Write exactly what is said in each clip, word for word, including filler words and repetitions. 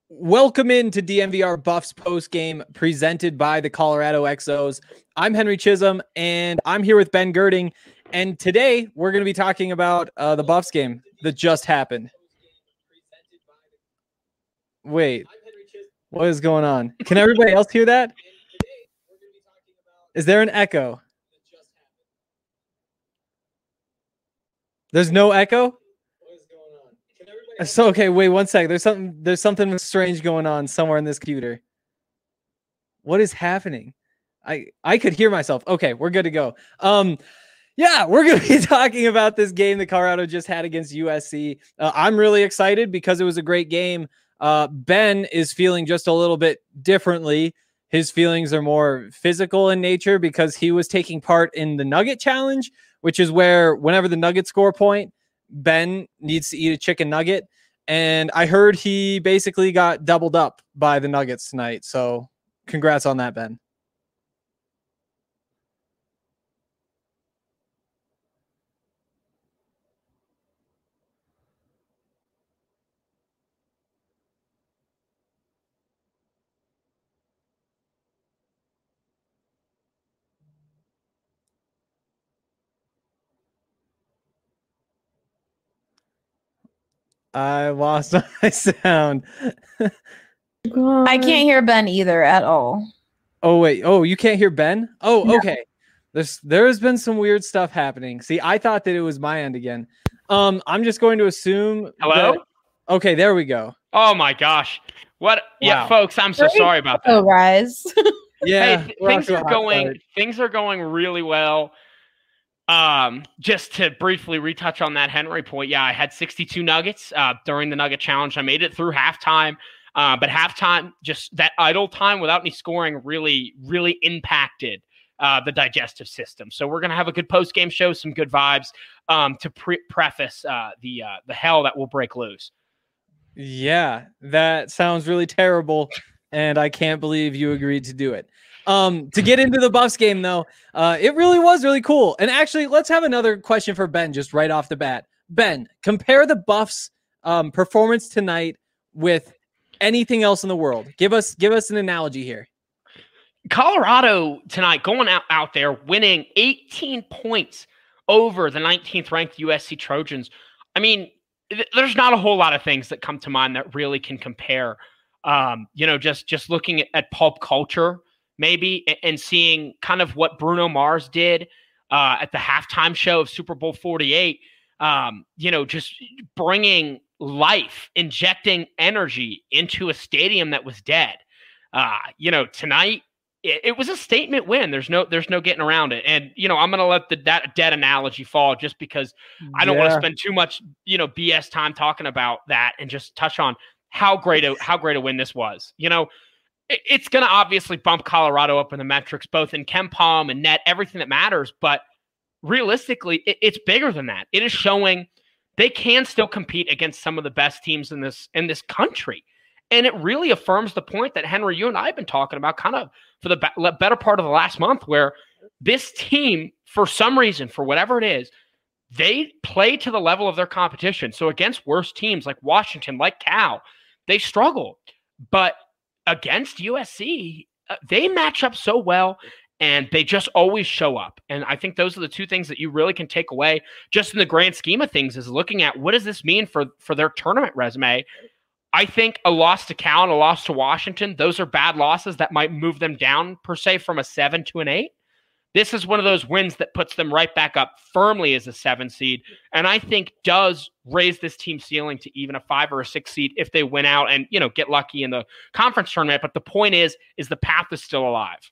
Welcome into D N V R Buffs post game presented by the Colorado X Os. I'm Henry Chisholm, and I'm here with Ben Girding. And today we're going to be talking about uh, the Buffs game that just happened. Wait, what is going on? Can everybody else hear that? Is there an echo? There's no echo? So okay, wait one second. There's something there's something strange going on somewhere in this computer. What is happening? I I could hear myself. Okay, we're good to go. Um yeah, we're going to be talking about this game that Colorado just had against U S C. Uh, I'm really excited because it was a great game. Uh Ben is feeling just a little bit differently. His feelings are more physical in nature because he was taking part in the Nugget Challenge, which is where whenever the Nuggets score a point, Ben needs to eat a chicken nugget. And I heard he basically got doubled up by the Nuggets tonight. So congrats on that, Ben. I lost my sound. I can't hear Ben either at all. Oh, wait. Oh, you can't hear Ben? Oh, no. Okay. There's there's been some weird stuff happening. See, I thought that it was my end again. Um, I'm just going to assume. Hello? That... Okay, there we go. Oh my gosh. What? Wow. Yeah, folks, I'm so Great sorry about that. Oh, guys. Yeah. Hey, th- things are going start. things are going really well. Um, just to briefly retouch on that Henry point, yeah, I had sixty-two nuggets uh, during the Nugget Challenge. I made it through halftime, uh, but halftime, just that idle time without any scoring really, really impacted uh, the digestive system. So we're gonna have a good post game show, some good vibes um, to pre- preface uh, the uh, the hell that will break loose. Yeah, that sounds really terrible, and I can't believe you agreed to do it. Um, to get into the Buffs game, though, uh, it really was really cool. And actually, let's have another question for Ben just right off the bat. Ben, compare the Buffs um, performance tonight with anything else in the world. Give us give us an analogy here. Colorado tonight going out, out there winning eighteen points over the nineteenth ranked U S C Trojans. I mean, th- there's not a whole lot of things that come to mind that really can compare. Um, you know, just just looking at, at pulp culture. Maybe, and seeing kind of what Bruno Mars did uh, at the halftime show of Super Bowl forty-eight, um, you know, just bringing life, injecting energy into a stadium that was dead. Uh, you know, tonight it, it was a statement win. There's no, there's no getting around it. And you know, I'm going to let the that dead analogy fall just because I don't yeah. want to spend too much, you know, B S time talking about that and just touch on how great a how great a win this was. You know. It's going to obviously bump Colorado up in the metrics, both in KenPom and net, everything that matters. But realistically, it, it's bigger than that. It is showing they can still compete against some of the best teams in this in this country. And it really affirms the point that, Henry, you and I have been talking about kind of for the be- better part of the last month, where this team, for some reason, for whatever it is, they play to the level of their competition. So against worse teams like Washington, like Cal, they struggle. But against U S C, uh, they match up so well, and they just always show up. And I think those are the two things that you really can take away just in the grand scheme of things, is looking at what does this mean for, for their tournament resume. I think a loss to Cal and a loss to Washington, those are bad losses that might move them down, per se, from a seven to an eight. This is one of those wins that puts them right back up firmly as a seven seed, and I think does raise this team's ceiling to even a five or a six seed if they win out and, you know, get lucky in the conference tournament. But the point is, is the path is still alive.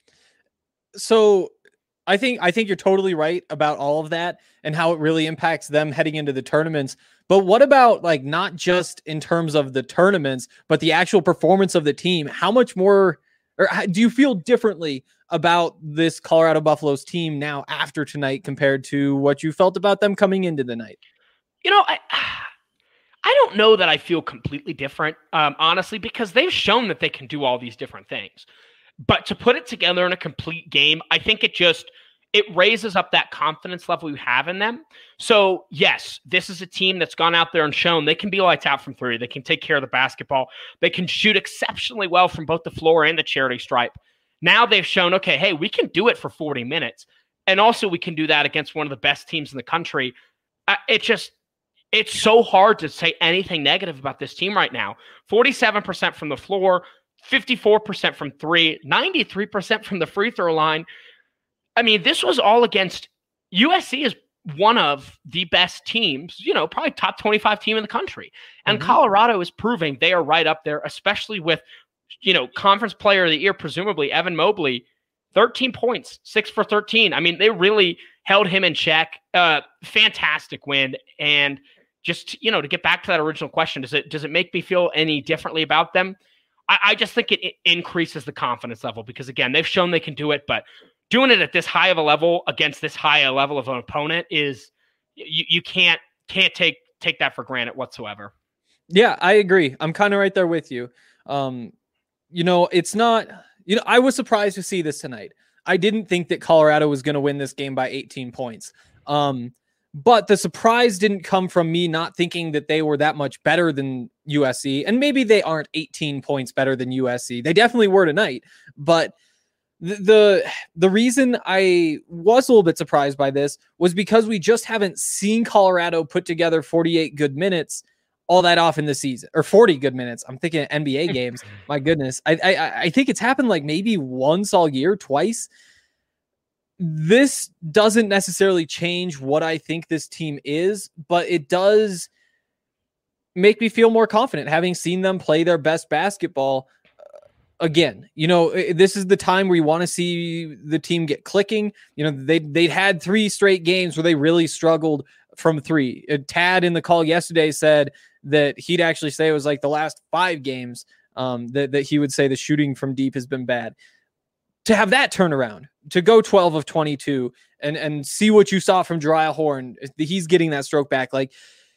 So I think I think you're totally right about all of that and how it really impacts them heading into the tournaments. But what about, like, not just in terms of the tournaments, but the actual performance of the team? How much more, or how, do you feel differently about this Colorado Buffaloes team now after tonight compared to what you felt about them coming into the night? You know, I I don't know that I feel completely different, um, honestly, because they've shown that they can do all these different things. But to put it together in a complete game, I think it just it raises up that confidence level you have in them. So, yes, this is a team that's gone out there and shown they can be lights out from three. They can take care of the basketball. They can shoot exceptionally well from both the floor and the charity stripe. Now they've shown, okay, hey, we can do it for forty minutes. And also we can do that against one of the best teams in the country. Uh, it just, it's so hard to say anything negative about this team right now. forty-seven percent from the floor, fifty-four percent from three, ninety-three percent from the free throw line. I mean, this was all against U S C is one of the best teams, you know, probably top twenty-five team in the country. And mm-hmm. Colorado is proving they are right up there, especially with, you know, conference player of the year, presumably Evan Mobley, thirteen points, six for thirteen. I mean, they really held him in check. Uh, fantastic win. And just, you know, to get back to that original question, does it, does it make me feel any differently about them? I, I just think it, it increases the confidence level because, again, they've shown they can do it, but doing it at this high of a level against this high a level of an opponent is you, you can't can't take take that for granted whatsoever. Yeah, I agree. I'm kind of right there with you. Um, you know, it's not, you know, I was surprised to see this tonight. I didn't think that Colorado was going to win this game by eighteen points. Um, but the surprise didn't come from me not thinking that they were that much better than U S C. And maybe they aren't eighteen points better than U S C. They definitely were tonight, but The, the the reason I was a little bit surprised by this was because we just haven't seen Colorado put together forty-eight good minutes all that often this season, or forty good minutes. I'm thinking N B A games. My goodness. I, I I think it's happened like maybe once all year, twice. This doesn't necessarily change what I think this team is, but it does make me feel more confident having seen them play their best basketball. Again, you know, this is the time where you want to see the team get clicking. You know, they, they'd had three straight games where they really struggled from three. Tad in the call yesterday said that he'd actually say it was like the last five games um, that, that he would say the shooting from deep has been bad. To have that turnaround, to go twelve of twenty-two and, and see what you saw from Jeriah Horn, he's getting that stroke back. Like,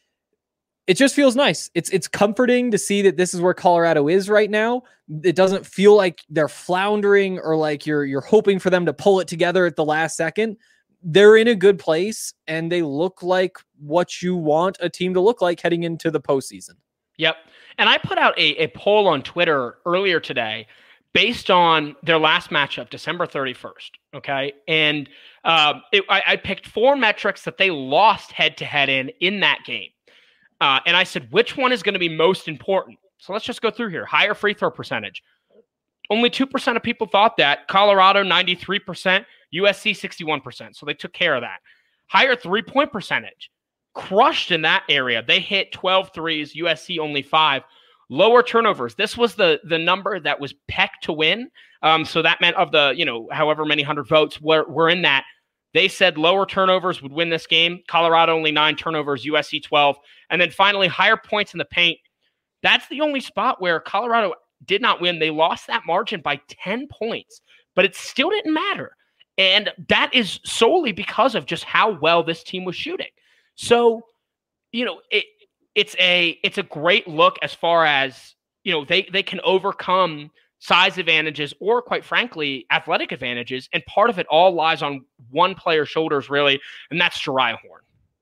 it just feels nice. It's it's comforting to see that this is where Colorado is right now. It doesn't feel like they're floundering or like you're you're hoping for them to pull it together at the last second. They're in a good place, and they look like what you want a team to look like heading into the postseason. Yep. And I put out a, a poll on Twitter earlier today based on their last matchup, December thirty-first. Okay. And uh, it, I, I picked four metrics that they lost head-to-head in in that game. Uh, and I said, which one is going to be most important? So let's just go through here. Higher free throw percentage. Only two percent of people thought that. Colorado, ninety-three percent. U S C, sixty-one percent. So they took care of that. Higher three-point percentage. Crushed in that area. They hit twelve threes. U S C only five. Lower turnovers. This was the, the number that was pegged to win. Um, so that meant of the, you know, however many hundred votes were, were in that. They said lower turnovers would win this game. Colorado only nine turnovers, U S C twelve. And then finally, higher points in the paint. That's the only spot where Colorado did not win. They lost that margin by ten points, but it still didn't matter. And that is solely because of just how well this team was shooting. So, you know, it it's a it's a great look as far as, you know, they they can overcome size advantages or, quite frankly, athletic advantages. And part of it all lies on one player's shoulders, really, and that's Jeriah Horn.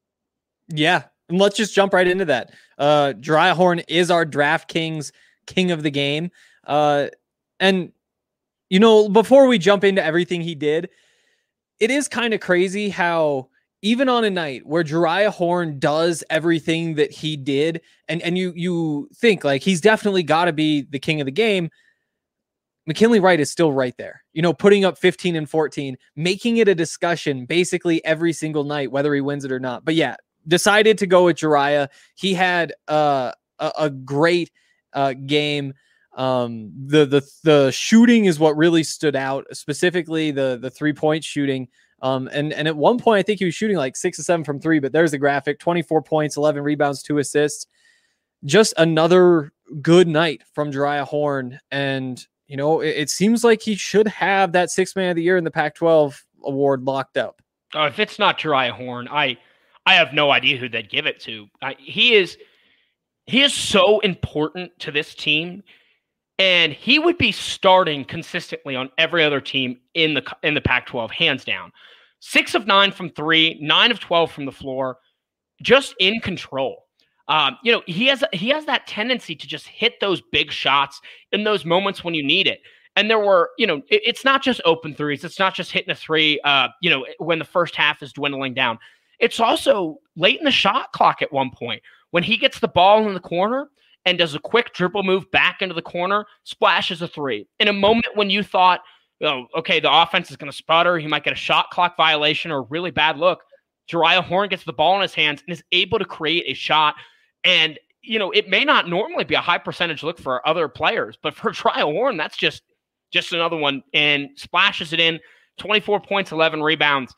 Yeah, and let's just jump right into that. Uh, Jeriah Horn is our DraftKings king of the game. Uh, and, you know, before we jump into everything he did, it is kind of crazy how even on a night where Jeriah Horn does everything that he did, and, and you, you think, like, he's definitely got to be the king of the game, McKinley Wright is still right there, you know, putting up fifteen and fourteen, making it a discussion basically every single night, whether he wins it or not. But yeah, decided to go with Jeriah. He had uh, a, a great uh, game. Um, the, the, the shooting is what really stood out, specifically the, the three point shooting. Um, and, and at one point, I think he was shooting like six or seven from three, but there's the graphic, twenty-four points, eleven rebounds, two assists, just another good night from Jeriah Horn. And, you know, it, it seems like he should have that sixth man of the year in the Pac twelve award locked up. Oh, if it's not Jeriah Horn, I, I have no idea who they'd give it to. I, he is, he is so important to this team, and he would be starting consistently on every other team in the in the Pac twelve, hands down. Six of nine from three, nine of twelve from the floor, just in control. Um, you know, he has he has that tendency to just hit those big shots in those moments when you need it. And there were, you know, it, it's not just open threes. It's not just hitting a three, uh, you know, when the first half is dwindling down. It's also late in the shot clock at one point when he gets the ball in the corner and does a quick dribble move back into the corner, splashes a three. In a moment when you thought, oh, okay, the offense is going to sputter, he might get a shot clock violation or a really bad look, Jeriah Horne gets the ball in his hands and is able to create a shot. And, you know, it may not normally be a high percentage look for other players, but for Jeriah Horne, that's just, just another one, and splashes it in, twenty-four points, eleven rebounds.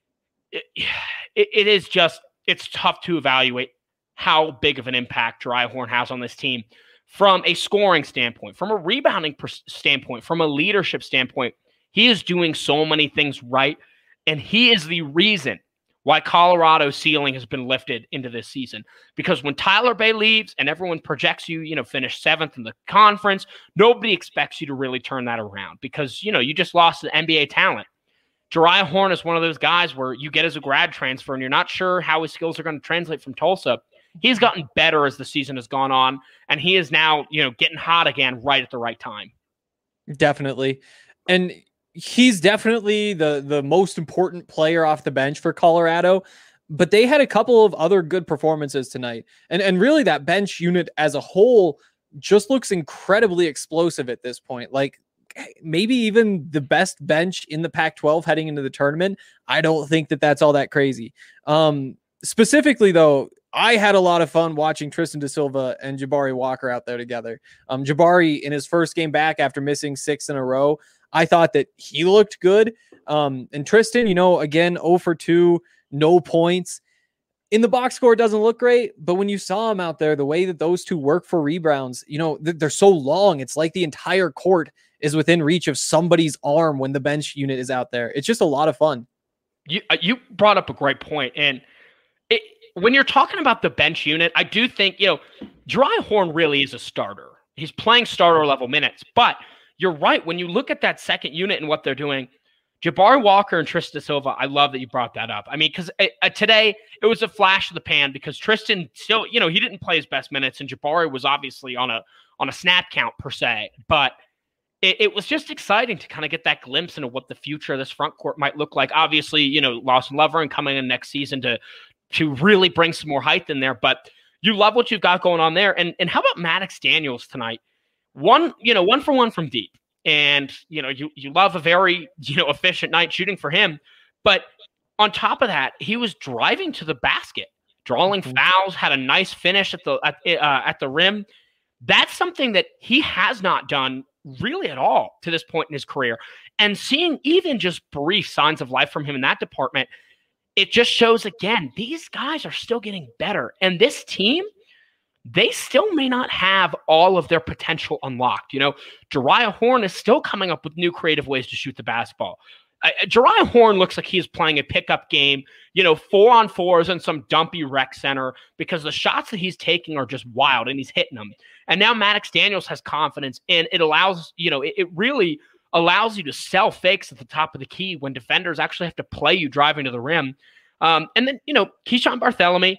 It, it, it is just, it's tough to evaluate how big of an impact Jeriah Horne has on this team from a scoring standpoint, from a rebounding per- standpoint, from a leadership standpoint. He is doing so many things right, and he is the reason why Colorado's ceiling has been lifted into this season. Because when Tyler Bey leaves and everyone projects you, you know, finish seventh in the conference, nobody expects you to really turn that around because, you know, you just lost an N B A talent. Jeriah Horne is one of those guys where you get as a grad transfer and you're not sure how his skills are going to translate from Tulsa. He's gotten better as the season has gone on, and he is now, you know, getting hot again right at the right time. Definitely. And he's definitely the, the most important player off the bench for Colorado, but they had a couple of other good performances tonight. And, and really that bench unit as a whole just looks incredibly explosive at this point. Like maybe even the best bench in the Pac twelve heading into the tournament. I don't think that that's all that crazy. Um, specifically though, I had a lot of fun watching Tristan da Silva and Jabari Walker out there together. Um, Jabari in his first game back after missing six in a row, I thought that he looked good. Um, and Tristan, you know, again, zero for two, no points. In the box score, it doesn't look great, but when you saw him out there, the way that those two work for rebounds, you know, they're so long. It's like the entire court is within reach of somebody's arm when the bench unit is out there. It's just a lot of fun. You, uh, you brought up a great point. And it, when you're talking about the bench unit, I do think, you know, Jeriah Horne really is a starter. He's playing starter level minutes, but you're right. When you look at that second unit and what they're doing, Jabari Walker and Tristan da Silva, I love that you brought that up. I mean, because uh, today it was a flash of the pan because Tristan still, you know, he didn't play his best minutes, and Jabari was obviously on a on a snap count per se. But it, it was just exciting to kind of get that glimpse into what the future of this front court might look like. Obviously, you know, Lawson Lovering coming in next season to to really bring some more height in there. But you love what you've got going on there. And and how about Maddox Daniels tonight? One, you know, one for one from deep. And, you know, you, you love a very, you know, efficient night shooting for him. But on top of that, he was driving to the basket, drawing mm-hmm. fouls, had a nice finish at the, at, uh, at the rim. That's something that he has not done really at all to this point in his career. And seeing even just brief signs of life from him in that department, it just shows again, these guys are still getting better. And this team, they still may not have all of their potential unlocked. You know, Jeriah Horne is still coming up with new creative ways to shoot the basketball. Uh, Jeriah Horne looks like he's playing a pickup game, you know, four on fours in some dumpy rec center because the shots that he's taking are just wild and he's hitting them. And now Maddox Daniels has confidence, and it allows, you know, it, it really allows you to sell fakes at the top of the key when defenders actually have to play you driving to the rim. Um, and then, you know, Keeshawn Barthelemy,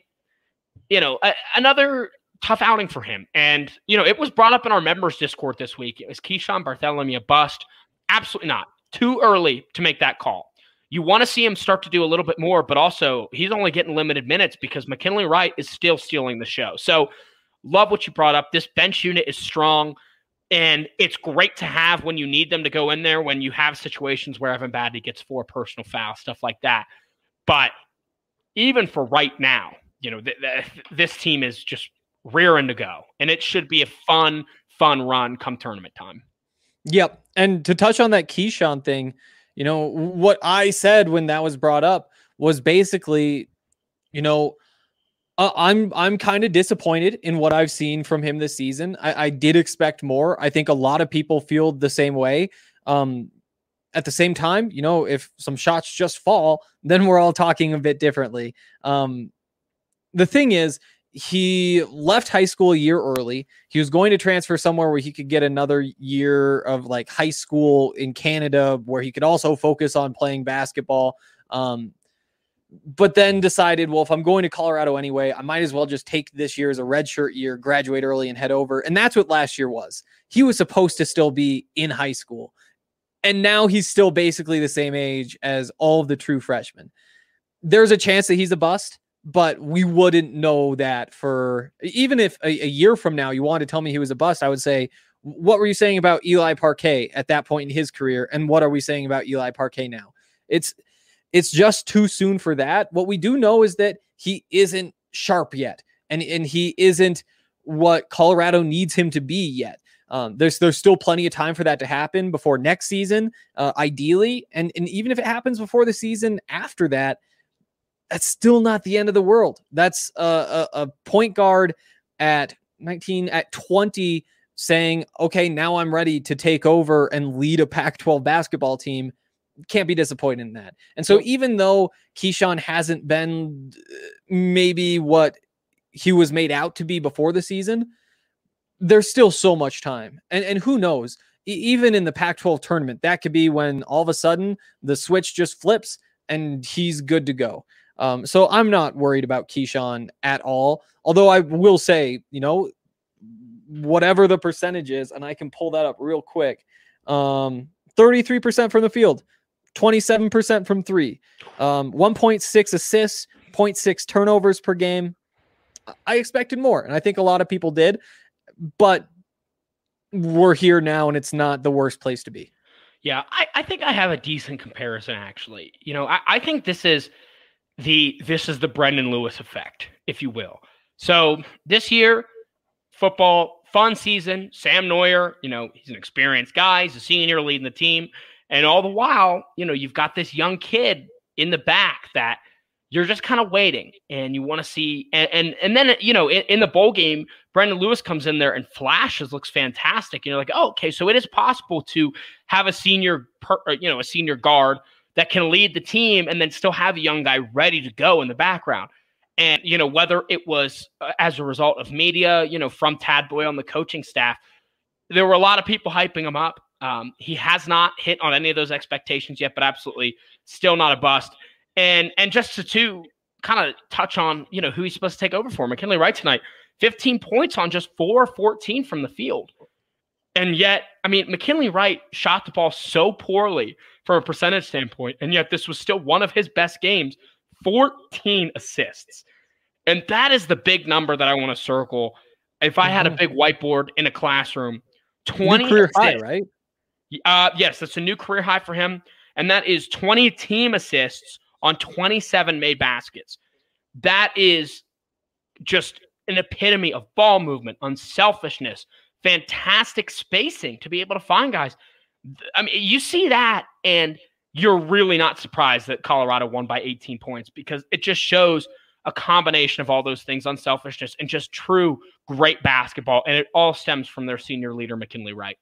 you know, a, another tough outing for him. And, you know, it was brought up in our members Discord this week. It was Keeshawn Barthelemy a bust? Absolutely not. Too early to make that call. You want to see him start to do a little bit more, but also he's only getting limited minutes because McKinley Wright is still stealing the show. So love what you brought up. This bench unit is strong, and it's great to have when you need them to go in there, when you have situations where Evan Badley gets four personal fouls, stuff like that. But even for right now, you know, th- th- this team is just rearing to go, and it should be a fun, fun run come tournament time. Yep. And to touch on that Keeshawn thing, you know, what I said when that was brought up was basically, you know, uh, I'm I'm kind of disappointed in what I've seen from him this season. I, I did expect more. I think a lot of people feel the same way. Um, at the same time, you know, if some shots just fall, then we're all talking a bit differently. Um, the thing is, he left high school a year early. He was going to transfer somewhere where he could get another year of like high school in Canada, where he could also focus on playing basketball. Um, but then decided, well, if I'm going to Colorado anyway, I might as well just take this year as a redshirt year, graduate early and head over. And that's what last year was. He was supposed to still be in high school. And now he's still basically the same age as all of the true freshmen. There's a chance that he's a bust, but we wouldn't know that for, even if a, a year from now you wanted to tell me he was a bust, I would say, what were you saying about Eli Parquet at that point in his career? And what are we saying about Eli Parquet now? It's, It's just too soon for that. What we do know is that he isn't sharp yet, and, and he isn't what Colorado needs him to be yet. Um, there's there's still plenty of time for that to happen before next season, uh, ideally. And, and even if it happens before the season after that, that's still not the end of the world. That's a, a, a point guard at nineteen, at twenty saying, okay, now I'm ready to take over and lead a Pac twelve basketball team. Can't be disappointed in that. And so even though Keyshawn hasn't been maybe what he was made out to be before the season, there's still so much time. And, and who knows, even in the Pac twelve tournament, that could be when all of a sudden the switch just flips and he's good to go. Um, so I'm not worried about Keyshawn at all. Although I will say, you know, whatever the percentage is, and I can pull that up real quick, um, thirty-three percent from the field, twenty-seven percent from three, um, one point six assists, zero point six turnovers per game. I expected more, and I think a lot of people did, but we're here now, and it's not the worst place to be. Yeah, I, I think I have a decent comparison, actually. You know, I, I think this is the this is the Brendan Lewis effect, if you will. So this year, football, fun season, Sam Neuer, you know, he's an experienced guy, he's a senior leading the team. And all the while, you know, you've got this young kid in the back that you're just kind of waiting and you want to see. And, and, and then, you know, in, in the bowl game, Brendan Lewis comes in there and flashes, looks fantastic. And you're like, oh, okay, so it is possible to have a senior, per, you know, a senior guard that can lead the team and then still have a young guy ready to go in the background. And, you know, whether it was uh, as a result of media, you know, from Tad Boyle on the coaching staff, there were a lot of people hyping him up. Um, he has not hit on any of those expectations yet, but absolutely still not a bust. And and just to, to kind of touch on, you know, who he's supposed to take over for, McKinley Wright tonight, fifteen points on just four fourteen from the field. And yet, I mean, McKinley Wright shot the ball so poorly from a percentage standpoint, and yet this was still one of his best games, fourteen assists. And that is the big number that I want to circle. If I had a big whiteboard in a classroom, twenty new career assists, high, right? Uh, yes, that's a new career high for him. And that is twenty team assists on twenty-seven made baskets. That is just an epitome of ball movement, unselfishness, fantastic spacing to be able to find guys. I mean, you see that and you're really not surprised that Colorado won by eighteen points, because it just shows a combination of all those things, unselfishness and just true great basketball. And it all stems from their senior leader, McKinley Wright.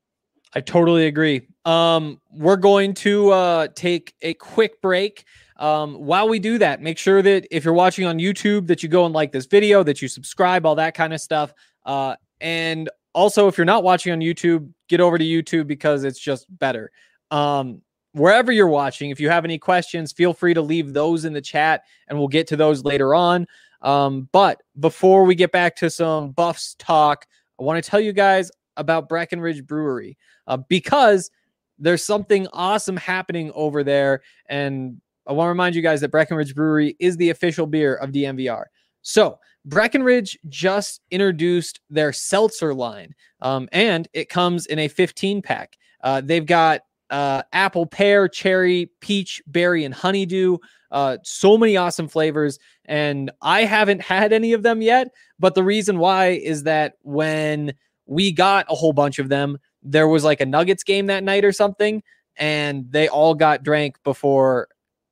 I totally agree. Um, we're going to uh, take a quick break. Um, while we do that, make sure that if you're watching on YouTube, that you go and like this video, that you subscribe, all that kind of stuff. Uh, and also, if you're not watching on YouTube, get over to YouTube because it's just better. Um, wherever you're watching, if you have any questions, feel free to leave those in the chat and we'll get to those later on. Um, but before we get back to some Buffs talk, I want to tell you guys about Breckenridge Brewery. Uh, because there's something awesome happening over there. And I want to remind you guys that Breckenridge Brewery is the official beer of D M V R. So Breckenridge just introduced their seltzer line, um, and it comes in a fifteen pack. Uh, they've got uh, apple, pear, cherry, peach, berry, and honeydew. Uh, so many awesome flavors. And I haven't had any of them yet. But the reason why is that when we got a whole bunch of them, there was like a Nuggets game that night or something, and they all got drank before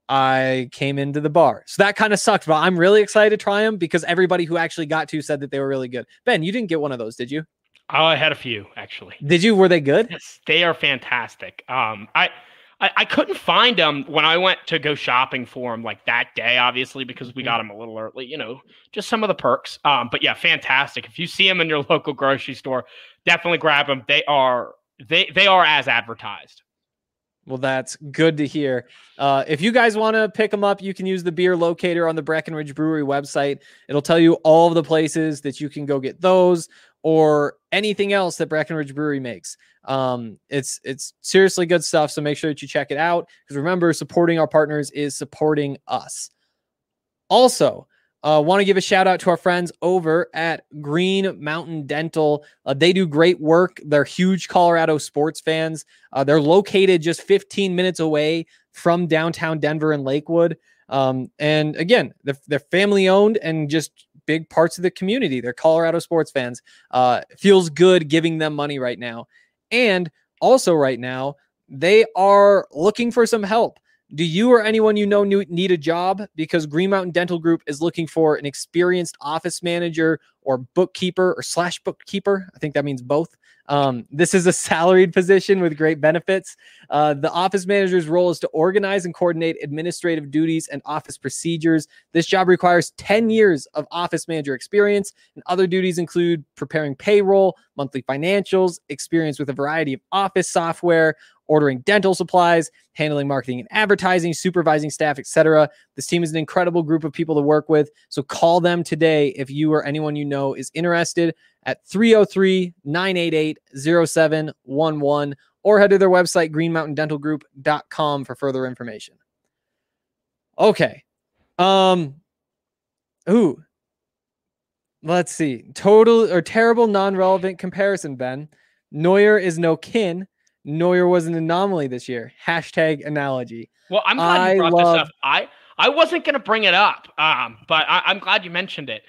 I came into the bar. So that kind of sucked, but I'm really excited to try them because everybody who actually got to said that they were really good. Ben, you didn't get one of those, did you? Oh, I had a few, actually. Did you? Were they good? Yes, they are fantastic. Um, I, I, I couldn't find them when I went to go shopping for them like that day, obviously, because we got them a little early, you know, just some of the perks. Um, but yeah, fantastic. If you see them in your local grocery store, definitely grab them. They are they they are as advertised. Well, that's good to hear. Uh, if you guys want to pick them up, you can use the beer locator on the Breckenridge Brewery website. It'll tell you all of the places that you can go get those or anything else that Breckenridge Brewery makes. Um, it's it's seriously good stuff, so make sure that you check it out. Because remember, supporting our partners is supporting us. Also, Uh, want to give a shout out to our friends over at Green Mountain Dental. Uh, they do great work. They're huge Colorado sports fans. Uh, they're located just fifteen minutes away from downtown Denver and Lakewood. Um, and again, they're, they're family owned and just big parts of the community. They're Colorado sports fans. Uh, feels good giving them money right now. And also right now, they are looking for some help. Do you or anyone you know need a job? Because Green Mountain Dental Group is looking for an experienced office manager or bookkeeper or slash bookkeeper. I think that means both. Um, this is a salaried position with great benefits. Uh, the office manager's role is to organize and coordinate administrative duties and office procedures. This job requires ten years of office manager experience, and other duties include preparing payroll, monthly financials, experience with a variety of office software, ordering dental supplies, handling marketing and advertising, supervising staff, et cetera. This team is an incredible group of people to work with. So call them today if you or anyone you know is interested at three oh three, nine eight eight, oh seven one one or head to their website, green mountain dental group dot com for further information. Okay. Um, ooh, let's see. Total or terrible non-relevant comparison, Ben. Neuer is no kin. Neuer was an anomaly this year. Hashtag analogy. Well, I'm glad I you brought love... this up. I, I wasn't going to bring it up, um, but I, I'm glad you mentioned it.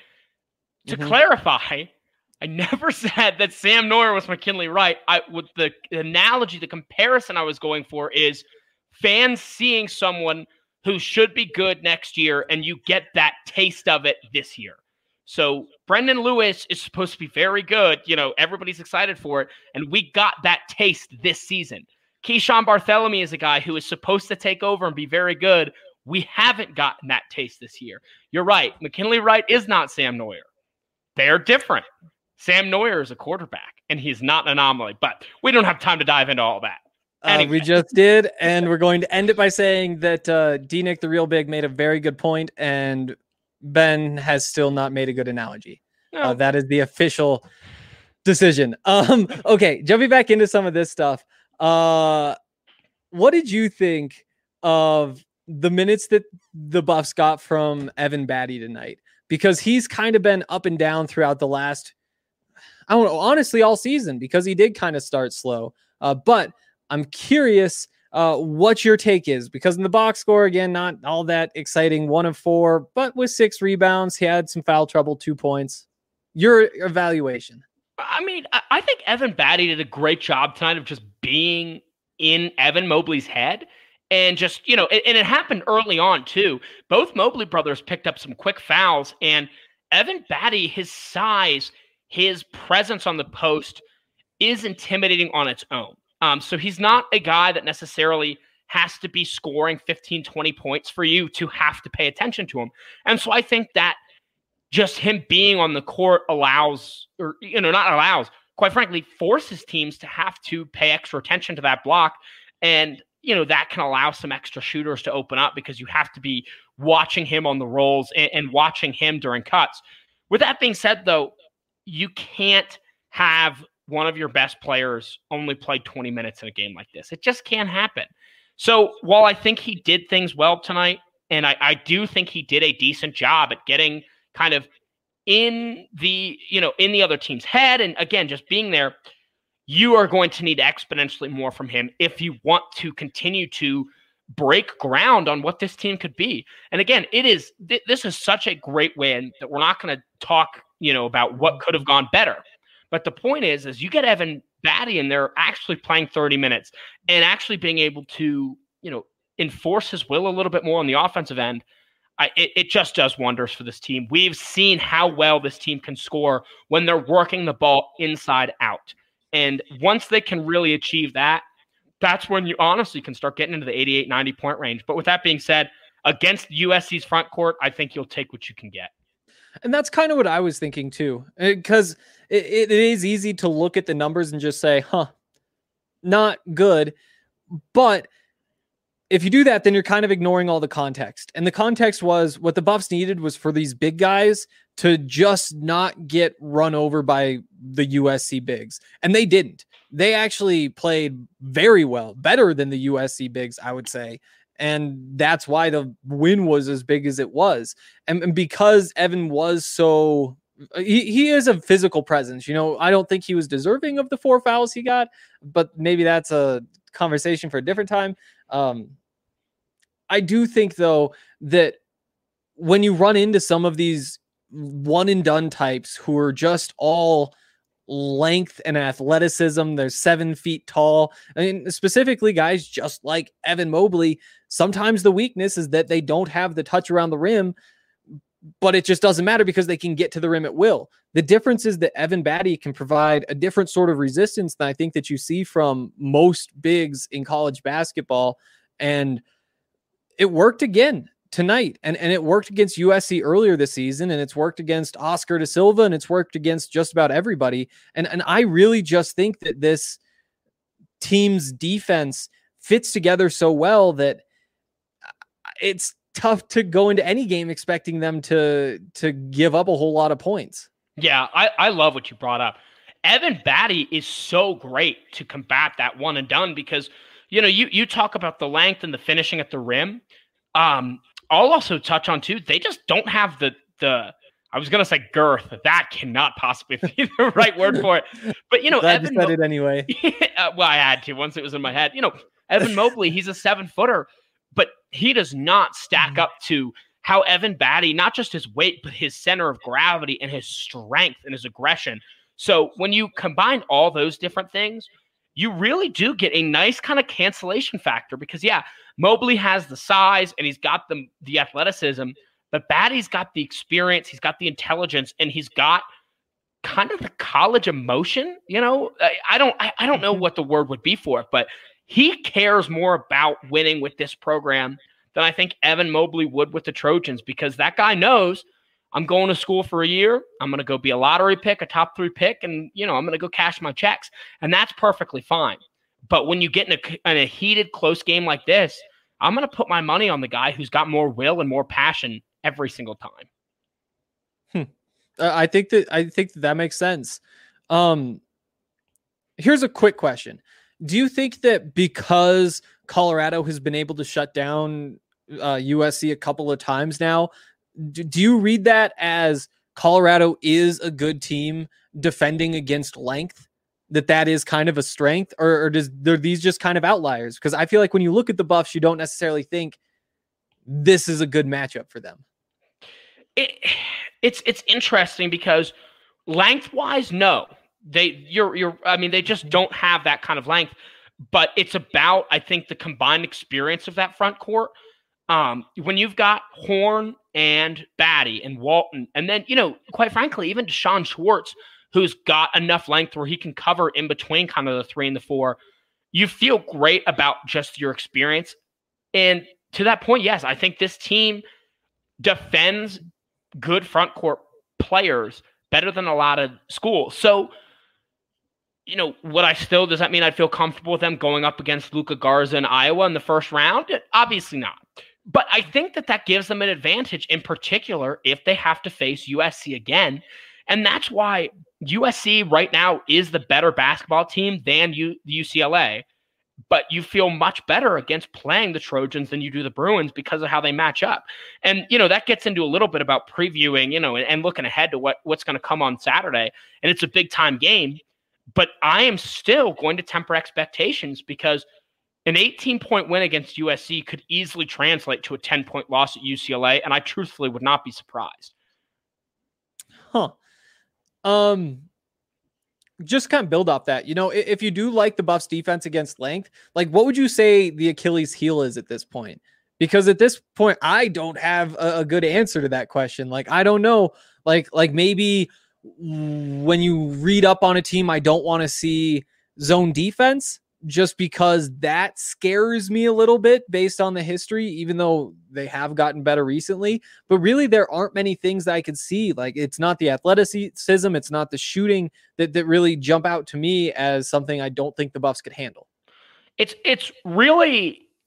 To Mm-hmm. clarify, I never said that Sam Neuer was McKinley Wright. I with the analogy, the comparison I was going for is fans seeing someone who should be good next year, and you get that taste of it this year. So Brendan Lewis is supposed to be very good. You know, everybody's excited for it, and we got that taste this season. Keyshawn Bartholomew is a guy who is supposed to take over and be very good. We haven't gotten that taste this year. You're right. McKinley Wright is not Sam Neuer. They're different. Sam Neuer is a quarterback, and he's not an anomaly. But we don't have time to dive into all that. Anyway. Uh, we just did, and we're going to end it by saying that uh, D-Nick the Real Big made a very good point, and Ben has still not made a good analogy. No. Uh, that is the official decision. Um, okay, jumping back into some of this stuff. Uh, what did you think of the minutes that the Buffs got from Evan Batty tonight? Because he's kind of been up and down throughout the last, I don't know, honestly, all season, because he did kind of start slow. Uh, but I'm curious uh, what your take is, because in the box score, again, not all that exciting, one of four, but with six rebounds, he had some foul trouble, two points. Your evaluation. I mean, I think Evan Batty did a great job tonight of just being in Evan Mobley's head. And just, you know, and, and it happened early on, too. Both Mobley brothers picked up some quick fouls. And Evan Batty, his size, his presence on the post is intimidating on its own. Um, so he's not a guy that necessarily has to be scoring fifteen, twenty points for you to have to pay attention to him. And so I think that just him being on the court allows, or, you know, not allows, quite frankly, forces teams to have to pay extra attention to that block. And, you know, that can allow some extra shooters to open up because you have to be watching him on the rolls and, and watching him during cuts. With that being said, though, you can't have one of your best players only play twenty minutes in a game like this. It just can't happen. So while I think he did things well tonight, and I, I do think he did a decent job at getting kind of in the, you know, in the other team's head, and again, just being there, you are going to need exponentially more from him if you want to continue to break ground on what this team could be. And again, it is, th- this is such a great win that we're not going to talk, you know, about what could have gone better. But the point is, is you get Evan Batty in there actually playing thirty minutes and actually being able to, you know, enforce his will a little bit more on the offensive end. I, it, it just does wonders for this team. We've seen how well this team can score when they're working the ball inside out. And once they can really achieve that, that's when you honestly can start getting into the eighty-eight, ninety point range. But with that being said, against U S C's front court, I think you'll take what you can get. And that's kind of what I was thinking too, because it, it is easy to look at the numbers and just say, huh, not good. But if you do that, then you're kind of ignoring all the context. And the context was what the Buffs needed was for these big guys to just not get run over by the U S C bigs. And they didn't. They actually played very well, better than the U S C bigs, I would say. And that's why the win was as big as it was. And, and because Evan was so, he, he is a physical presence. You know, I don't think he was deserving of the four fouls he got, but maybe that's a conversation for a different time. Um, I do think, though, that when you run into some of these one and done types who are just all length and athleticism, they're seven feet tall. I mean, specifically guys just like Evan Mobley, sometimes the weakness is that they don't have the touch around the rim, but it just doesn't matter because they can get to the rim at will. The difference is that Evan Batty can provide a different sort of resistance than I think that you see from most bigs in college basketball. And it worked again tonight. And, and it worked against U S C earlier this season, and it's worked against Oscar da Silva, and it's worked against just about everybody. And, and I really just think that this team's defense fits together so well that it's tough to go into any game expecting them to, to give up a whole lot of points. Yeah, I, I love what you brought up. Evan Batty is so great to combat that one and done because, you know, you, you talk about the length and the finishing at the rim. Um, I'll also touch on too, they just don't have the, the, I was going to say girth. That cannot possibly be the right word for it. But, you know, Glad Evan you said Mo- it anyway. uh, well, I had to once it was in my head. You know, Evan Mobley, he's a seven footer, but he does not stack up to how Evan Batty, not just his weight, but his center of gravity and his strength and his aggression. So when you combine all those different things, you really do get a nice kind of cancellation factor because, yeah, Mobley has the size and he's got the, the athleticism, but Batty's got the experience, he's got the intelligence, and he's got kind of the college emotion. You know, I, I don't I, I don't know what the word would be for it, but he cares more about winning with this program than I think Evan Mobley would with the Trojans because that guy knows I'm going to school for a year. I'm going to go be a lottery pick, a top three pick, and, you know, I'm going to go cash my checks. And that's perfectly fine. But when you get in a, in a heated, close game like this, I'm going to put my money on the guy who's got more will and more passion every single time. Hmm. Uh, I think that I think that, that makes sense. Um, here's a quick question. Do you think that because Colorado has been able to shut down uh, U S C a couple of times now, do, do you read that as Colorado is a good team defending against length, that that is kind of a strength, or, or does are these just kind of outliers? Because I feel like when you look at the Buffs, you don't necessarily think this is a good matchup for them. It, it's it's interesting because lengthwise, no, they you're you're. I mean, they just don't have that kind of length. But it's about, I think, the combined experience of that front court. Um, when you've got Horn and Batty and Walton, and then, you know, quite frankly, even Deshaun Schwartz, who's got enough length where he can cover in between kind of the three and the four, you feel great about just your experience. And to that point, yes, I think this team defends good front court players better than a lot of schools. So, you know, would I still, does that mean I'd feel comfortable with them going up against Luka Garza in Iowa in the first round? Obviously not. But I think that that gives them an advantage, in particular, if they have to face U S C again. And that's why U S C right now is the better basketball team than U- U C L A. But you feel much better against playing the Trojans than you do the Bruins because of how they match up. And, you know, that gets into a little bit about previewing, you know, and, and looking ahead to what, what's going to come on Saturday. And it's a big time game. But I am still going to temper expectations because an eighteen-point win against U S C could easily translate to a ten-point loss at U C L A, and I truthfully would not be surprised. Huh. Um, just kind of build off that. You know, if you do like the Buffs defense against length, like what would you say the Achilles heel is at this point? Because at this point, I don't have a, a good answer to that question. Like, I don't know. Like, like maybe when you read up on a team, I don't want to see zone defense just because that scares me a little bit based on the history, even though they have gotten better recently. But really, there aren't many things that I could see. Like, it's not the athleticism, it's not the shooting that, that really jump out to me as something I don't think the Buffs could handle. It's, it's really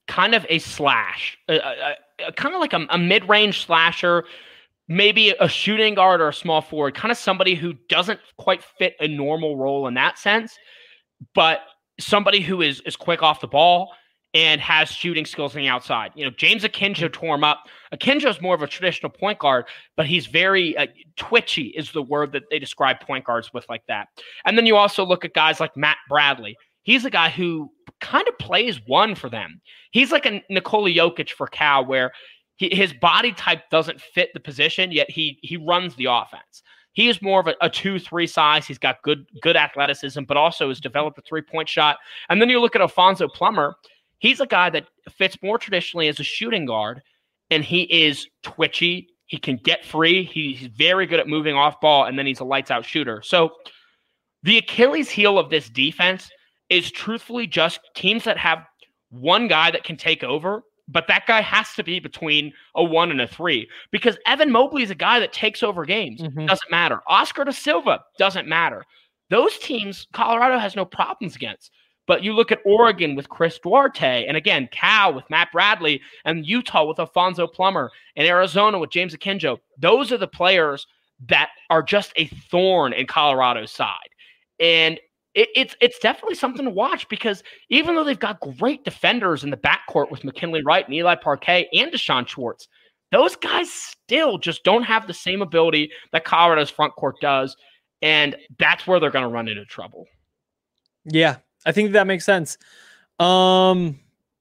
kind of a slash, a, a, a, kind of like a, a mid-range slasher, maybe a shooting guard or a small forward, kind of somebody who doesn't quite fit a normal role in that sense, but somebody who is is quick off the ball and has shooting skills on the outside. You know, James Akinjo tore him up. Akinjo is more of a traditional point guard, but he's very uh, twitchy is the word that they describe point guards with like that. And then you also look at guys like Matt Bradley. He's a guy who kind of plays one for them. He's like a Nikola Jokic for Cal, where he, his body type doesn't fit the position, yet he he runs the offense. He is more of a, a two three size. He's got good good athleticism, but also has developed a three-point shot. And then you look at Alfonso Plummer. He's a guy that fits more traditionally as a shooting guard, and he is twitchy. He can get free. He's very good at moving off ball, and then he's a lights-out shooter. So the Achilles heel of this defense is truthfully just teams that have one guy that can take over, but that guy has to be between a one and a three, because Evan Mobley is a guy that takes over games. Mm-hmm. Doesn't matter. Oscar da Silva doesn't matter. Those teams, Colorado has no problems against. But you look at Oregon with Chris Duarte, and again, Cal with Matt Bradley, and Utah with Alfonso Plummer, and Arizona with James Akinjo. Those are the players that are just a thorn in Colorado's side. And it, it's it's definitely something to watch, because even though they've got great defenders in the backcourt with McKinley Wright and Eli Parquet and Deshaun Schwartz, those guys still just don't have the same ability that Colorado's front court does, and that's where they're going to run into trouble. Yeah, I think that makes sense. Um,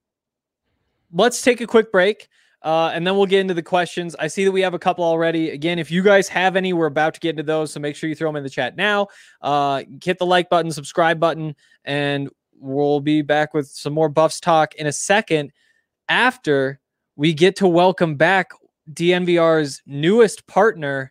let's take a quick break, uh, and then we'll get into the questions. I see that we have a couple already. Again, if you guys have any, we're about to get into those, so make sure you throw them in the chat now. Uh, hit the like button, subscribe button, and we'll be back with some more Buffs talk in a second after we get to welcome back D N V R's newest partner,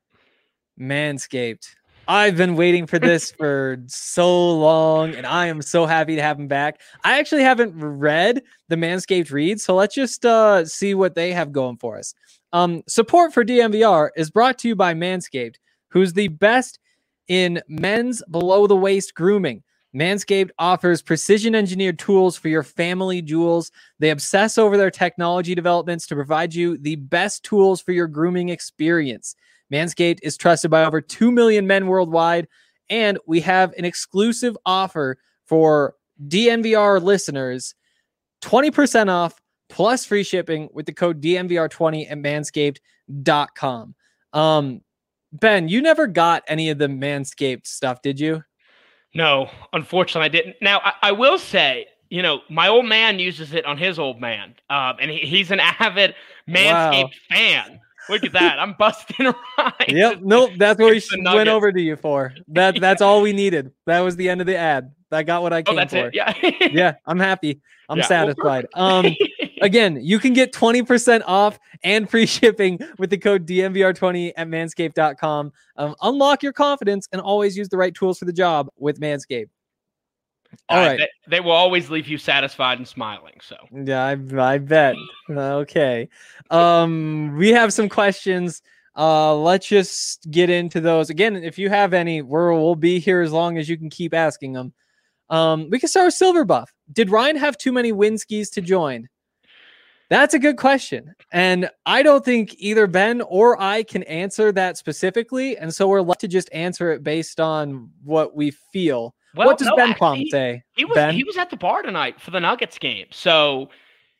Manscaped. I've been waiting for this for so long, and I am so happy to have him back. I actually haven't read the Manscaped read, so let's just uh, see what they have going for us. Um, support for D N V R is brought to you by Manscaped, who's the best in men's below-the-waist grooming. Manscaped offers precision-engineered tools for your family jewels. They obsess over their technology developments to provide you the best tools for your grooming experience. Manscaped is trusted by over two million men worldwide, and we have an exclusive offer for D N V R listeners, twenty percent off plus free shipping with the code D N V R twenty at manscaped dot com. Um, Ben, you never got any of the Manscaped stuff, did you? No, unfortunately I didn't. Now, I, I will say, you know, my old man uses it on his old man, um, and he, he's an avid Manscaped wow. fan. Look at that. I'm busting a rhyme. Yep. Nope. That's what we went over to you for. That yeah. That's all we needed. That was the end of the ad. I got what I came oh, that's for. It. Yeah. yeah. I'm happy. I'm yeah, satisfied. Well, um, again, you can get twenty percent off and free shipping with the code D N V R twenty at manscaped dot com. Um, unlock your confidence and always use the right tools for the job with Manscaped. All uh, right. They, they will always leave you satisfied and smiling. So yeah, I, I bet. Okay. Um, we have some questions. Uh, let's just get into those. Again, if you have any, we're, we'll be here as long as you can keep asking them. Um, we can start with Silver Buff. Did Ryan have too many Winskis to join? That's a good question. And I don't think either Ben or I can answer that specifically. And so we're left to just answer it based on what we feel. Well, what does no, Ben Palm say? He was Ben? he was at the bar tonight for the Nuggets game, so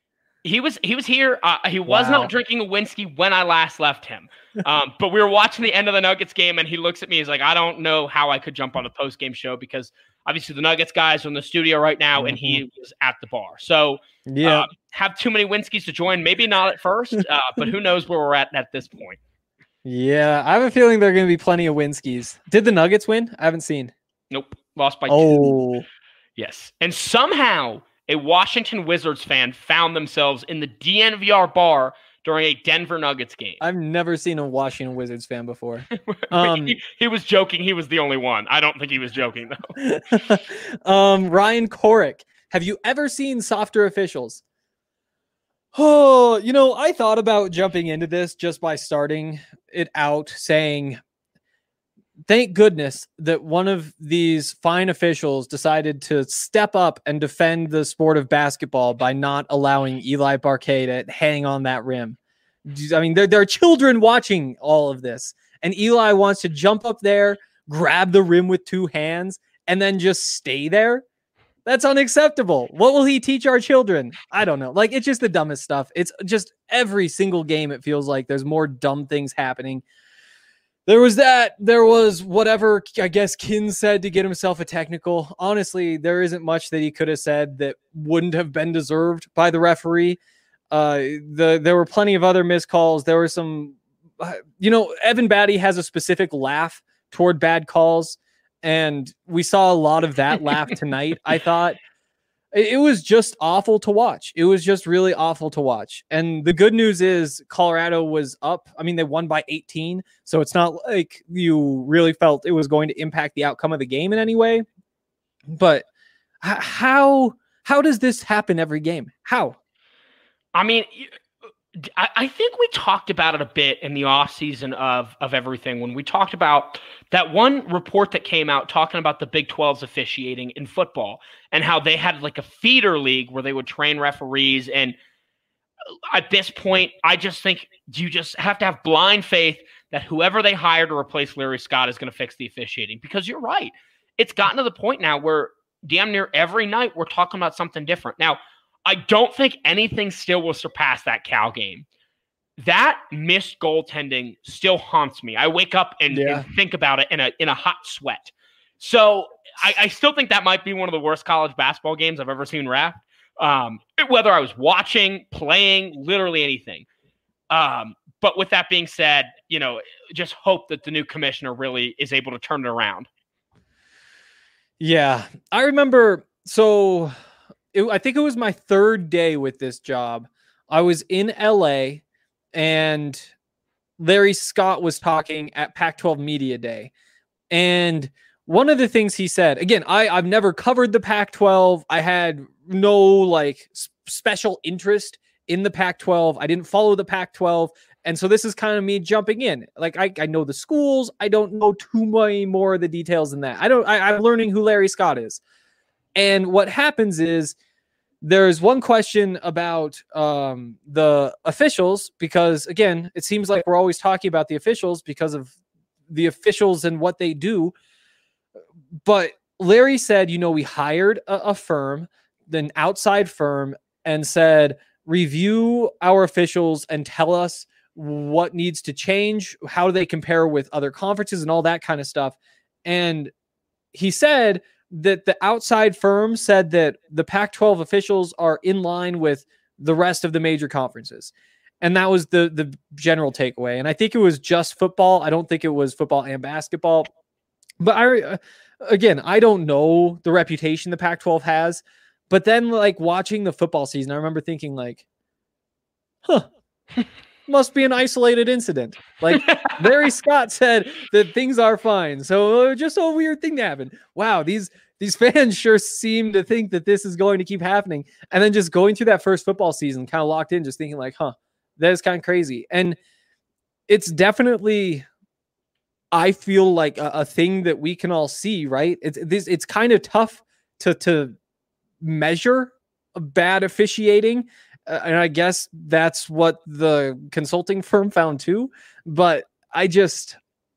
he was he was here. Uh, he was wow. not drinking a whiskey when I last left him, um, but we were watching the end of the Nuggets game, and he looks at me. He's like, "I don't know how I could jump on a post game show because obviously the Nuggets guys are in the studio right now, mm-hmm. and he was at the bar. So yeah, uh, have too many whiskeys to join? Maybe not at first, uh, but who knows where we're at at this point? Yeah, I have a feeling there are going to be plenty of whiskeys. Did the Nuggets win? I haven't seen. Nope. Lost by oh. two. Yes. And somehow a Washington Wizards fan found themselves in the D N V R bar during a Denver Nuggets game. I've never seen a Washington Wizards fan before. Um, he, he was joking. He was the only one. I don't think he was joking, though. um, Ryan Korick, have you ever seen Softer Officials? Oh, you know, I thought about jumping into this just by starting it out saying thank goodness that one of these fine officials decided to step up and defend the sport of basketball by not allowing Eli Parquet to hang on that rim. I mean, there, there are children watching all of this, and Eli wants to jump up there, grab the rim with two hands, and then just stay there. That's unacceptable. What will he teach our children? I don't know. Like, it's just the dumbest stuff. It's just every single game, it feels like there's more dumb things happening. There was that. There was whatever, I guess, Kin said to get himself a technical. Honestly, there isn't much that he could have said that wouldn't have been deserved by the referee. Uh, the there were plenty of other missed calls. There were some, uh, you know, Evan Batty has a specific laugh toward bad calls, and we saw a lot of that laugh tonight. I thought it, it was just awful to watch. It was just really awful to watch. And the good news is Colorado was up. I mean, they won by eighteen, so it's not like you really felt it was going to impact the outcome of the game in any way. But h- how how does this happen every game? How? I mean, I, I think we talked about it a bit in the offseason of, of everything when we talked about that one report that came out talking about the Big twelve's officiating in football and how they had like a feeder league where they would train referees. And at this point, I just think you just have to have blind faith that whoever they hire to replace Larry Scott is going to fix the officiating, because you're right. It's gotten to the point now where damn near every night we're talking about something different. Now, I don't think anything still will surpass that Cal game. That missed goaltending still haunts me. I wake up and, yeah. and think about it in a in a hot sweat. So I, I still think that might be one of the worst college basketball games I've ever seen ref. Um, whether I was watching, playing, literally anything. Um, but with that being said, you know, just hope that the new commissioner really is able to turn it around. Yeah, I remember. So. It, I think it was my third day with this job. I was in L A and Larry Scott was talking at Pac twelve Media Day. And one of the things he said, again, I, I've never covered the Pac twelve. I had no like s- special interest in the Pac twelve. I didn't follow the Pac twelve. And so this is kind of me jumping in. Like I, I know the schools. I don't know too many more of the details than that. I don't, I, I'm learning who Larry Scott is. And what happens is there's one question about um, the officials, because, again, it seems like we're always talking about the officials because of the officials and what they do. But Larry said, you know, we hired a, a firm, an outside firm, and said, review our officials and tell us what needs to change, how do they compare with other conferences and all that kind of stuff. And he said that the outside firm said that the Pac twelve officials are in line with the rest of the major conferences. And that was the, the general takeaway. And I think it was just football. I don't think it was football and basketball. But I, uh, again, I don't know the reputation the Pac twelve has. But then, like, watching the football season, I remember thinking, like, huh, must be an isolated incident. Like, Larry Scott said that things are fine. So uh, just a weird thing to happen. Wow, these these fans sure seem to think that this is going to keep happening. And then just going through that first football season, kind of locked in, just thinking like, huh, that is kind of crazy. And it's definitely, I feel like a, a thing that we can all see, right? It's this. It's kind of tough to to measure a bad officiating. Uh, and I guess that's what the consulting firm found too. But I just,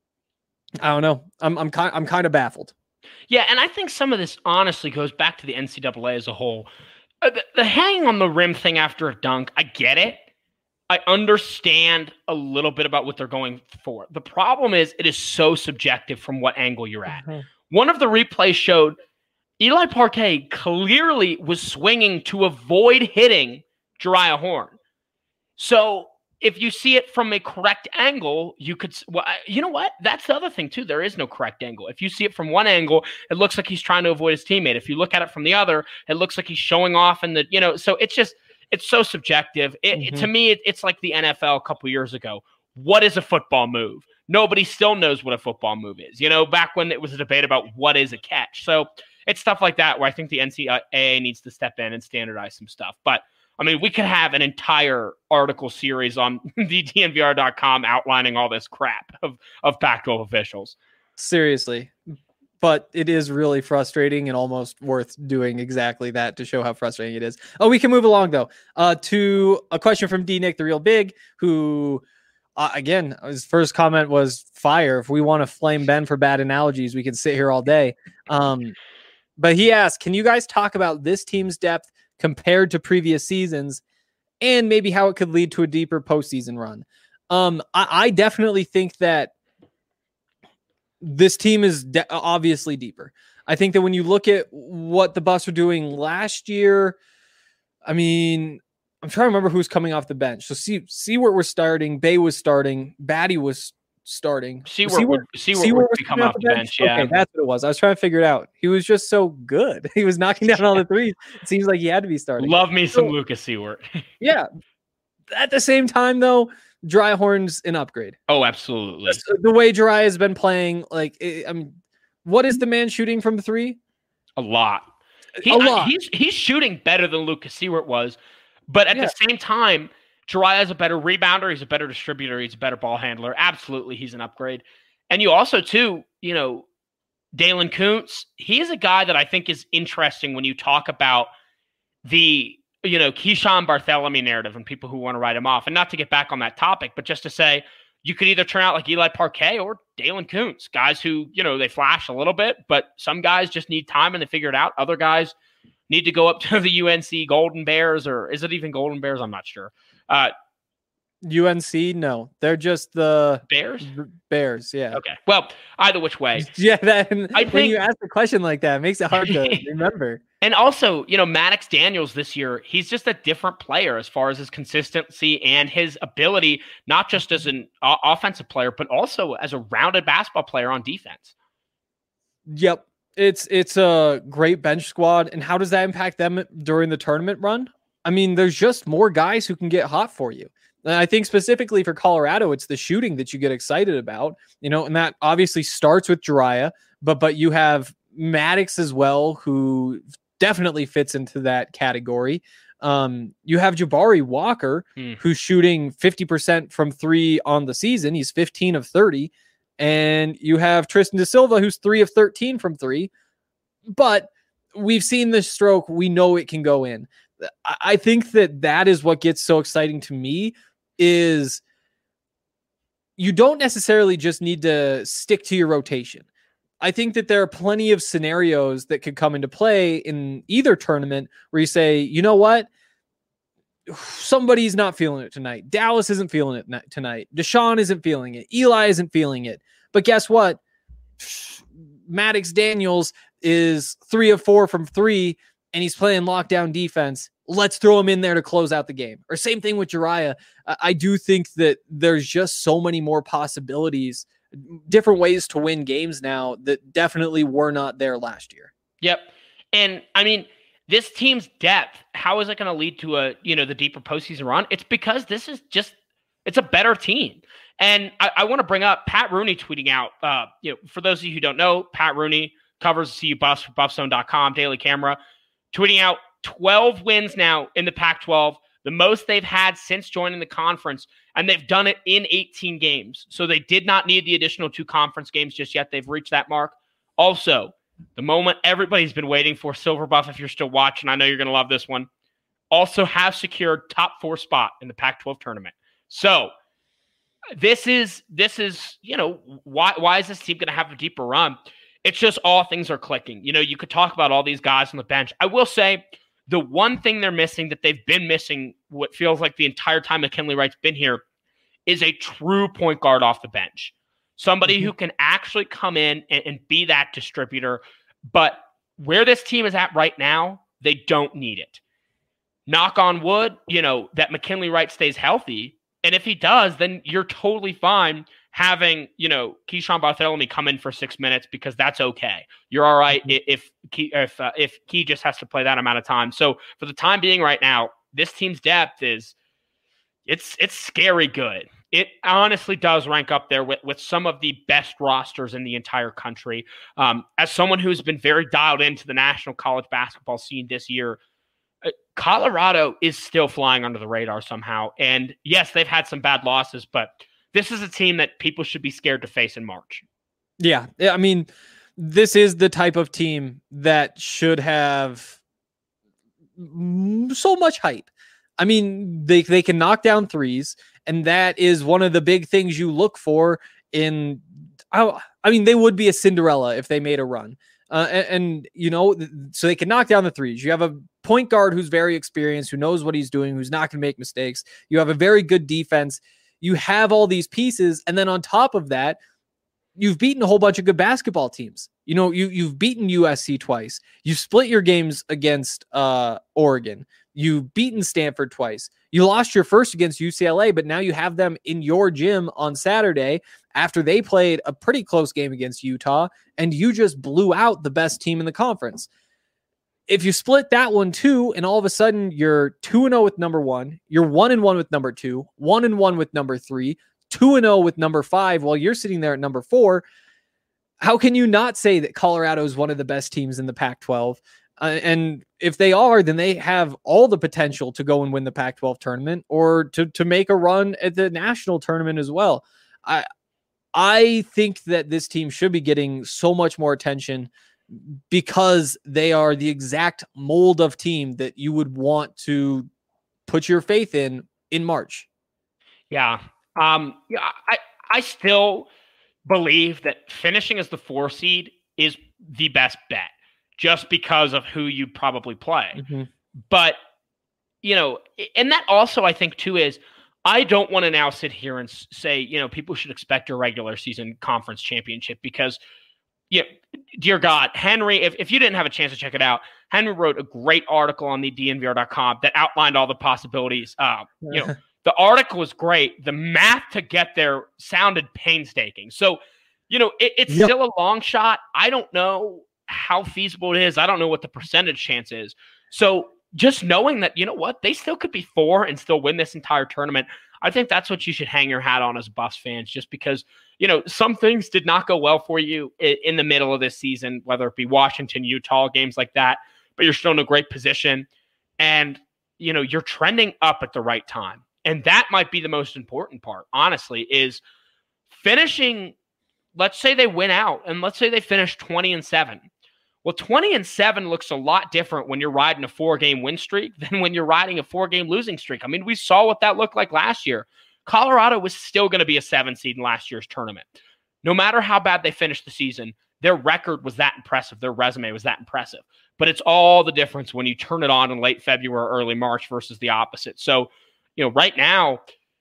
I don't know. I'm I'm kind I'm kind of baffled. Yeah, and I think some of this honestly goes back to the N C double A as a whole. Uh, the, the hanging on the rim thing after a dunk, I get it. I understand a little bit about what they're going for. The problem is it is so subjective from what angle you're at. Mm-hmm. One of the replays showed Eli Parquet clearly was swinging to avoid hitting Jeriah Horn. So if you see it from a correct angle, you could, well, you know what? That's the other thing too. There is no correct angle. If you see it from one angle, it looks like he's trying to avoid his teammate. If you look at it from the other, it looks like he's showing off. And the, you know, so it's just, it's so subjective. It, mm-hmm. it, to me, it, it's like the N F L a couple years ago. What is a football move? Nobody still knows what a football move is. You know, back when it was a debate about what is a catch. So it's stuff like that where I think the N C double A needs to step in and standardize some stuff. But I mean, we could have an entire article series on the D N V R dot com outlining all this crap of, of Pac twelve officials. Seriously. But it is really frustrating and almost worth doing exactly that to show how frustrating it is. Oh, we can move along, though, uh, to a question from D. Nick, the Real Big, who, uh, again, his first comment was fire. If we want to flame Ben for bad analogies, we can sit here all day. Um, but he asked, can you guys talk about this team's depth compared to previous seasons and maybe how it could lead to a deeper postseason run? Um, I, I definitely think that this team is de- obviously deeper. I think that when you look at what the Buffs were doing last year, I mean, I'm trying to remember who's coming off the bench. So see, Seward was starting, Bay was starting, Batty was starting. Seward would, Seward would be coming off the bench. bench yeah, okay, that's what it was. I was trying to figure it out. He was just so good. He was knocking down all the threes. It seems like he had to be starting. Love me some so, Lucas Seward. Yeah. At the same time, though, Dryhorn's an upgrade. Oh, absolutely. The way Jariah has been playing, like, I mean, what is the man shooting from three? A lot. He, a lot. I, he's he's shooting better than Lucas Seward was, but at yeah. the same time, Jariah is a better rebounder. He's a better distributor. He's a better ball handler. Absolutely, he's an upgrade. And you also, too, you know, Dalen Kuntz, he is a guy that I think is interesting when you talk about the you know, Keyshawn Bartholomew narrative and people who want to write him off. And not to get back on that topic, but just to say you could either turn out like Eli Parquet or Dalen Kuntz, guys who, you know, they flash a little bit, but some guys just need time and they figure it out. Other guys need to go up to the U N C Golden Bears, or is it even Golden Bears? I'm not sure. Uh, U N C, no, they're just the Bears. Bears, yeah. Okay. Well, either which way, yeah. That I think, when you ask a question like that, it makes it hard to remember. And also, you know, Maddox Daniels this year, he's just a different player as far as his consistency and his ability, not just as an uh, offensive player, but also as a rounded basketball player on defense. Yep, it's it's a great bench squad, and how does that impact them during the tournament run? I mean, there's just more guys who can get hot for you. And I think specifically for Colorado, it's the shooting that you get excited about, you know, and that obviously starts with Jariah, but but you have Maddox as well, who definitely fits into that category. Um, you have Jabari Walker, mm. who's shooting fifty percent from three on the season. He's fifteen of thirty. And you have Tristan Da Silva, who's three of thirteen from three. But we've seen this stroke. We know it can go in. I think that that is what gets so exciting to me, is you don't necessarily just need to stick to your rotation. I think that there are plenty of scenarios that could come into play in either tournament where you say, you know what? Somebody's not feeling it tonight. Dallas isn't feeling it tonight. Deshaun isn't feeling it. Eli isn't feeling it. But guess what? Maddox Daniels is three of four from three, and he's playing lockdown defense. Let's throw him in there to close out the game. Or same thing with Jariah. I do think that there's just so many more possibilities, different ways to win games now that definitely were not there last year. Yep. And I mean, this team's depth, how is it going to lead to a, you know, the deeper postseason run? It's because this is just, it's a better team. And I, I want to bring up Pat Rooney tweeting out, uh, you know, for those of you who don't know, Pat Rooney covers the C U Buffs for buff zone dot com, Daily Camera, tweeting out twelve wins now in the Pac twelve, the most they've had since joining the conference, and they've done it in eighteen games. So they did not need the additional two conference games just yet. They've reached that mark. Also, the moment everybody's been waiting for, Silver Buff, if you're still watching, I know you're going to love this one, also have secured top four spot in the Pac twelve tournament. So this is, this is, you know, why, why is this team going to have a deeper run? It's just all things are clicking. You know, you could talk about all these guys on the bench. I will say the one thing they're missing that they've been missing, what feels like the entire time McKinley Wright's been here, is a true point guard off the bench. Somebody mm-hmm. who can actually come in and, and be that distributor. But where this team is at right now, they don't need it. Knock on wood, you know, that McKinley Wright stays healthy. And if he does, then you're totally fine having, you know, Keyshawn Bartholomew come in for six minutes because that's okay. You're all right if Key, if uh, if Key just has to play that amount of time. So for the time being right now, this team's depth is it's it's scary good. It honestly does rank up there with, with some of the best rosters in the entire country. Um, as someone who's been very dialed into the national college basketball scene this year, uh, Colorado is still flying under the radar somehow. And yes, they've had some bad losses, but this is a team that people should be scared to face in March. Yeah. I mean, this is the type of team that should have so much hype. I mean, they, they can knock down threes, and that is one of the big things you look for in, I, I mean, they would be a Cinderella if they made a run. Uh, and, and, you know, so they can knock down the threes. You have a point guard who's very experienced, who knows what he's doing, who's not going to make mistakes. You have a very good defense. You have all these pieces. And then on top of that, you've beaten a whole bunch of good basketball teams. You know, you, you've beaten U S C twice. You've split your games against uh, Oregon. You've beaten Stanford twice. You lost your first against U C L A, but now you have them in your gym on Saturday after they played a pretty close game against Utah, and you just blew out the best team in the conference. If you split that one too, and all of a sudden you're two and oh with number one, you're one and one with number two, one and one with number three, two and oh with number five, while you're sitting there at number four, how can you not say that Colorado is one of the best teams in the Pac twelve? Uh, and if they are, then they have all the potential to go and win the Pac twelve tournament, or to, to make a run at the national tournament as well. I, I think that this team should be getting so much more attention because they are the exact mold of team that you would want to put your faith in in March. Yeah. Um, yeah, I, I still believe that finishing as the four seed is the best bet just because of who you probably play. Mm-hmm. But, you know, and that also I think too is I don't want to now sit here and say, you know, people should expect a regular season conference championship because, yeah, dear God, Henry, if, if you didn't have a chance to check it out, Henry wrote a great article on the D N V R dot com that outlined all the possibilities. Uh, you know, the article was great. The math to get there sounded painstaking. So, you know, it, it's yep. still a long shot. I don't know how feasible it is. I don't know what the percentage chance is. So just knowing that, you know what, they still could be four and still win this entire tournament. I think that's what you should hang your hat on as Buffs fans, just because, you know, some things did not go well for you in, in the middle of this season, whether it be Washington, Utah, games like that, but you're still in a great position and, you know, you're trending up at the right time. And that might be the most important part, honestly, is finishing. Let's say they win out and let's say they finish twenty and seven. Well, twenty and seven looks a lot different when you're riding a four game win streak than when you're riding a four game losing streak. I mean, we saw what that looked like last year. Colorado was still going to be a seven seed in last year's tournament. No matter how bad they finished the season, their record was that impressive. Their resume was that impressive. But it's all the difference when you turn it on in late February, early March versus the opposite. So, you know, right now,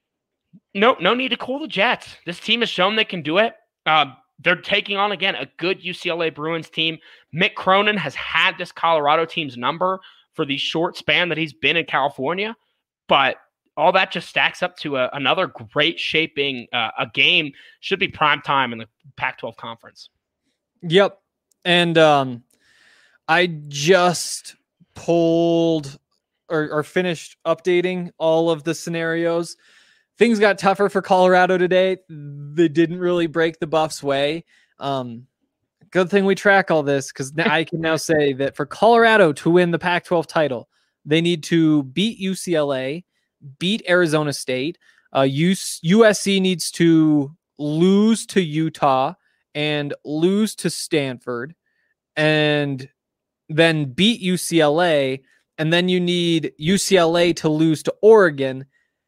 no, no need to cool the jets. This team has shown they can do it. Uh, they're taking on, again, a good U C L A Bruins team. Mick Cronin has had this Colorado team's number for the short span that he's been in California. But all that just stacks up to a, another great shaping uh, a game. Should be prime time in the Pac twelve conference. Yep. And um, I just pulled or, or finished updating all of the scenarios. Things got tougher for Colorado today. They didn't really break the Buffs' way. Um, good thing we track all this, because I can now say that for Colorado to win the Pac twelve title, they need to beat U C L A, beat Arizona State. Uh, U S C needs to lose to Utah and lose to Stanford, and then beat U C L A. And then you need U C L A to lose to Oregon.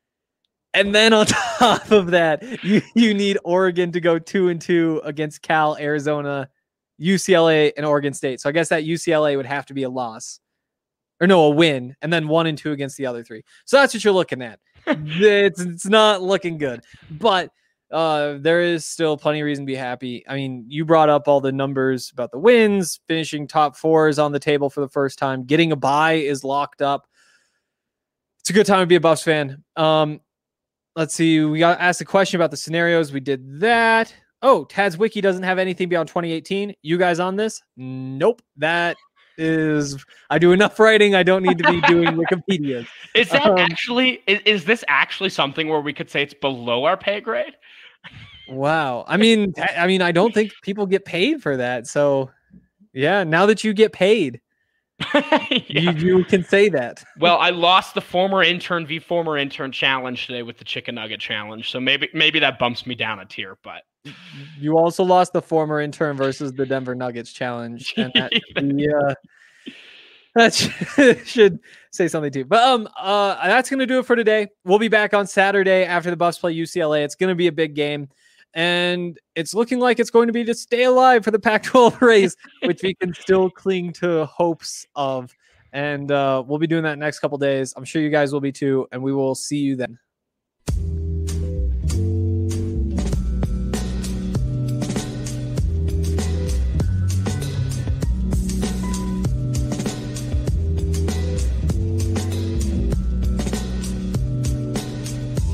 And then on top of that, you, you need Oregon to go two and two against Cal, Arizona, U C L A, and Oregon State. So I guess that U C L A would have to be a loss. Or no, a win. And then one and two against the other three. So that's what you're looking at. it's, it's not looking good. But uh, there is still plenty of reason to be happy. I mean, you brought up all the numbers about the wins. Finishing top four is on the table for the first time. Getting a bye is locked up. It's a good time to be a Buffs fan. Um, Let's see. We got asked a question about the scenarios. We did that. Oh, Tad's Wiki doesn't have anything beyond twenty eighteen. You guys on this? Nope. That is, I do enough writing. I don't need to be doing Wikipedia. Is that um, actually, is, is this actually something where we could say it's below our pay grade? Wow. I mean, I mean, I don't think people get paid for that. So yeah, now that you get paid, yeah. you, you can say that. Well, I lost the former intern v former intern challenge today with the chicken nugget challenge. So maybe, maybe that bumps me down a tier, but you also lost the former intern versus the Denver Nuggets challenge, and that yeah, that should, should say something too. But um, uh, that's gonna do it for today. We'll be back on Saturday after the Buffs play U C L A. It's gonna be a big game, and it's looking like it's going to be to stay alive for the Pac twelve race, which we can still cling to hopes of. And uh, we'll be doing that next couple days. I'm sure you guys will be too, and we will see you then.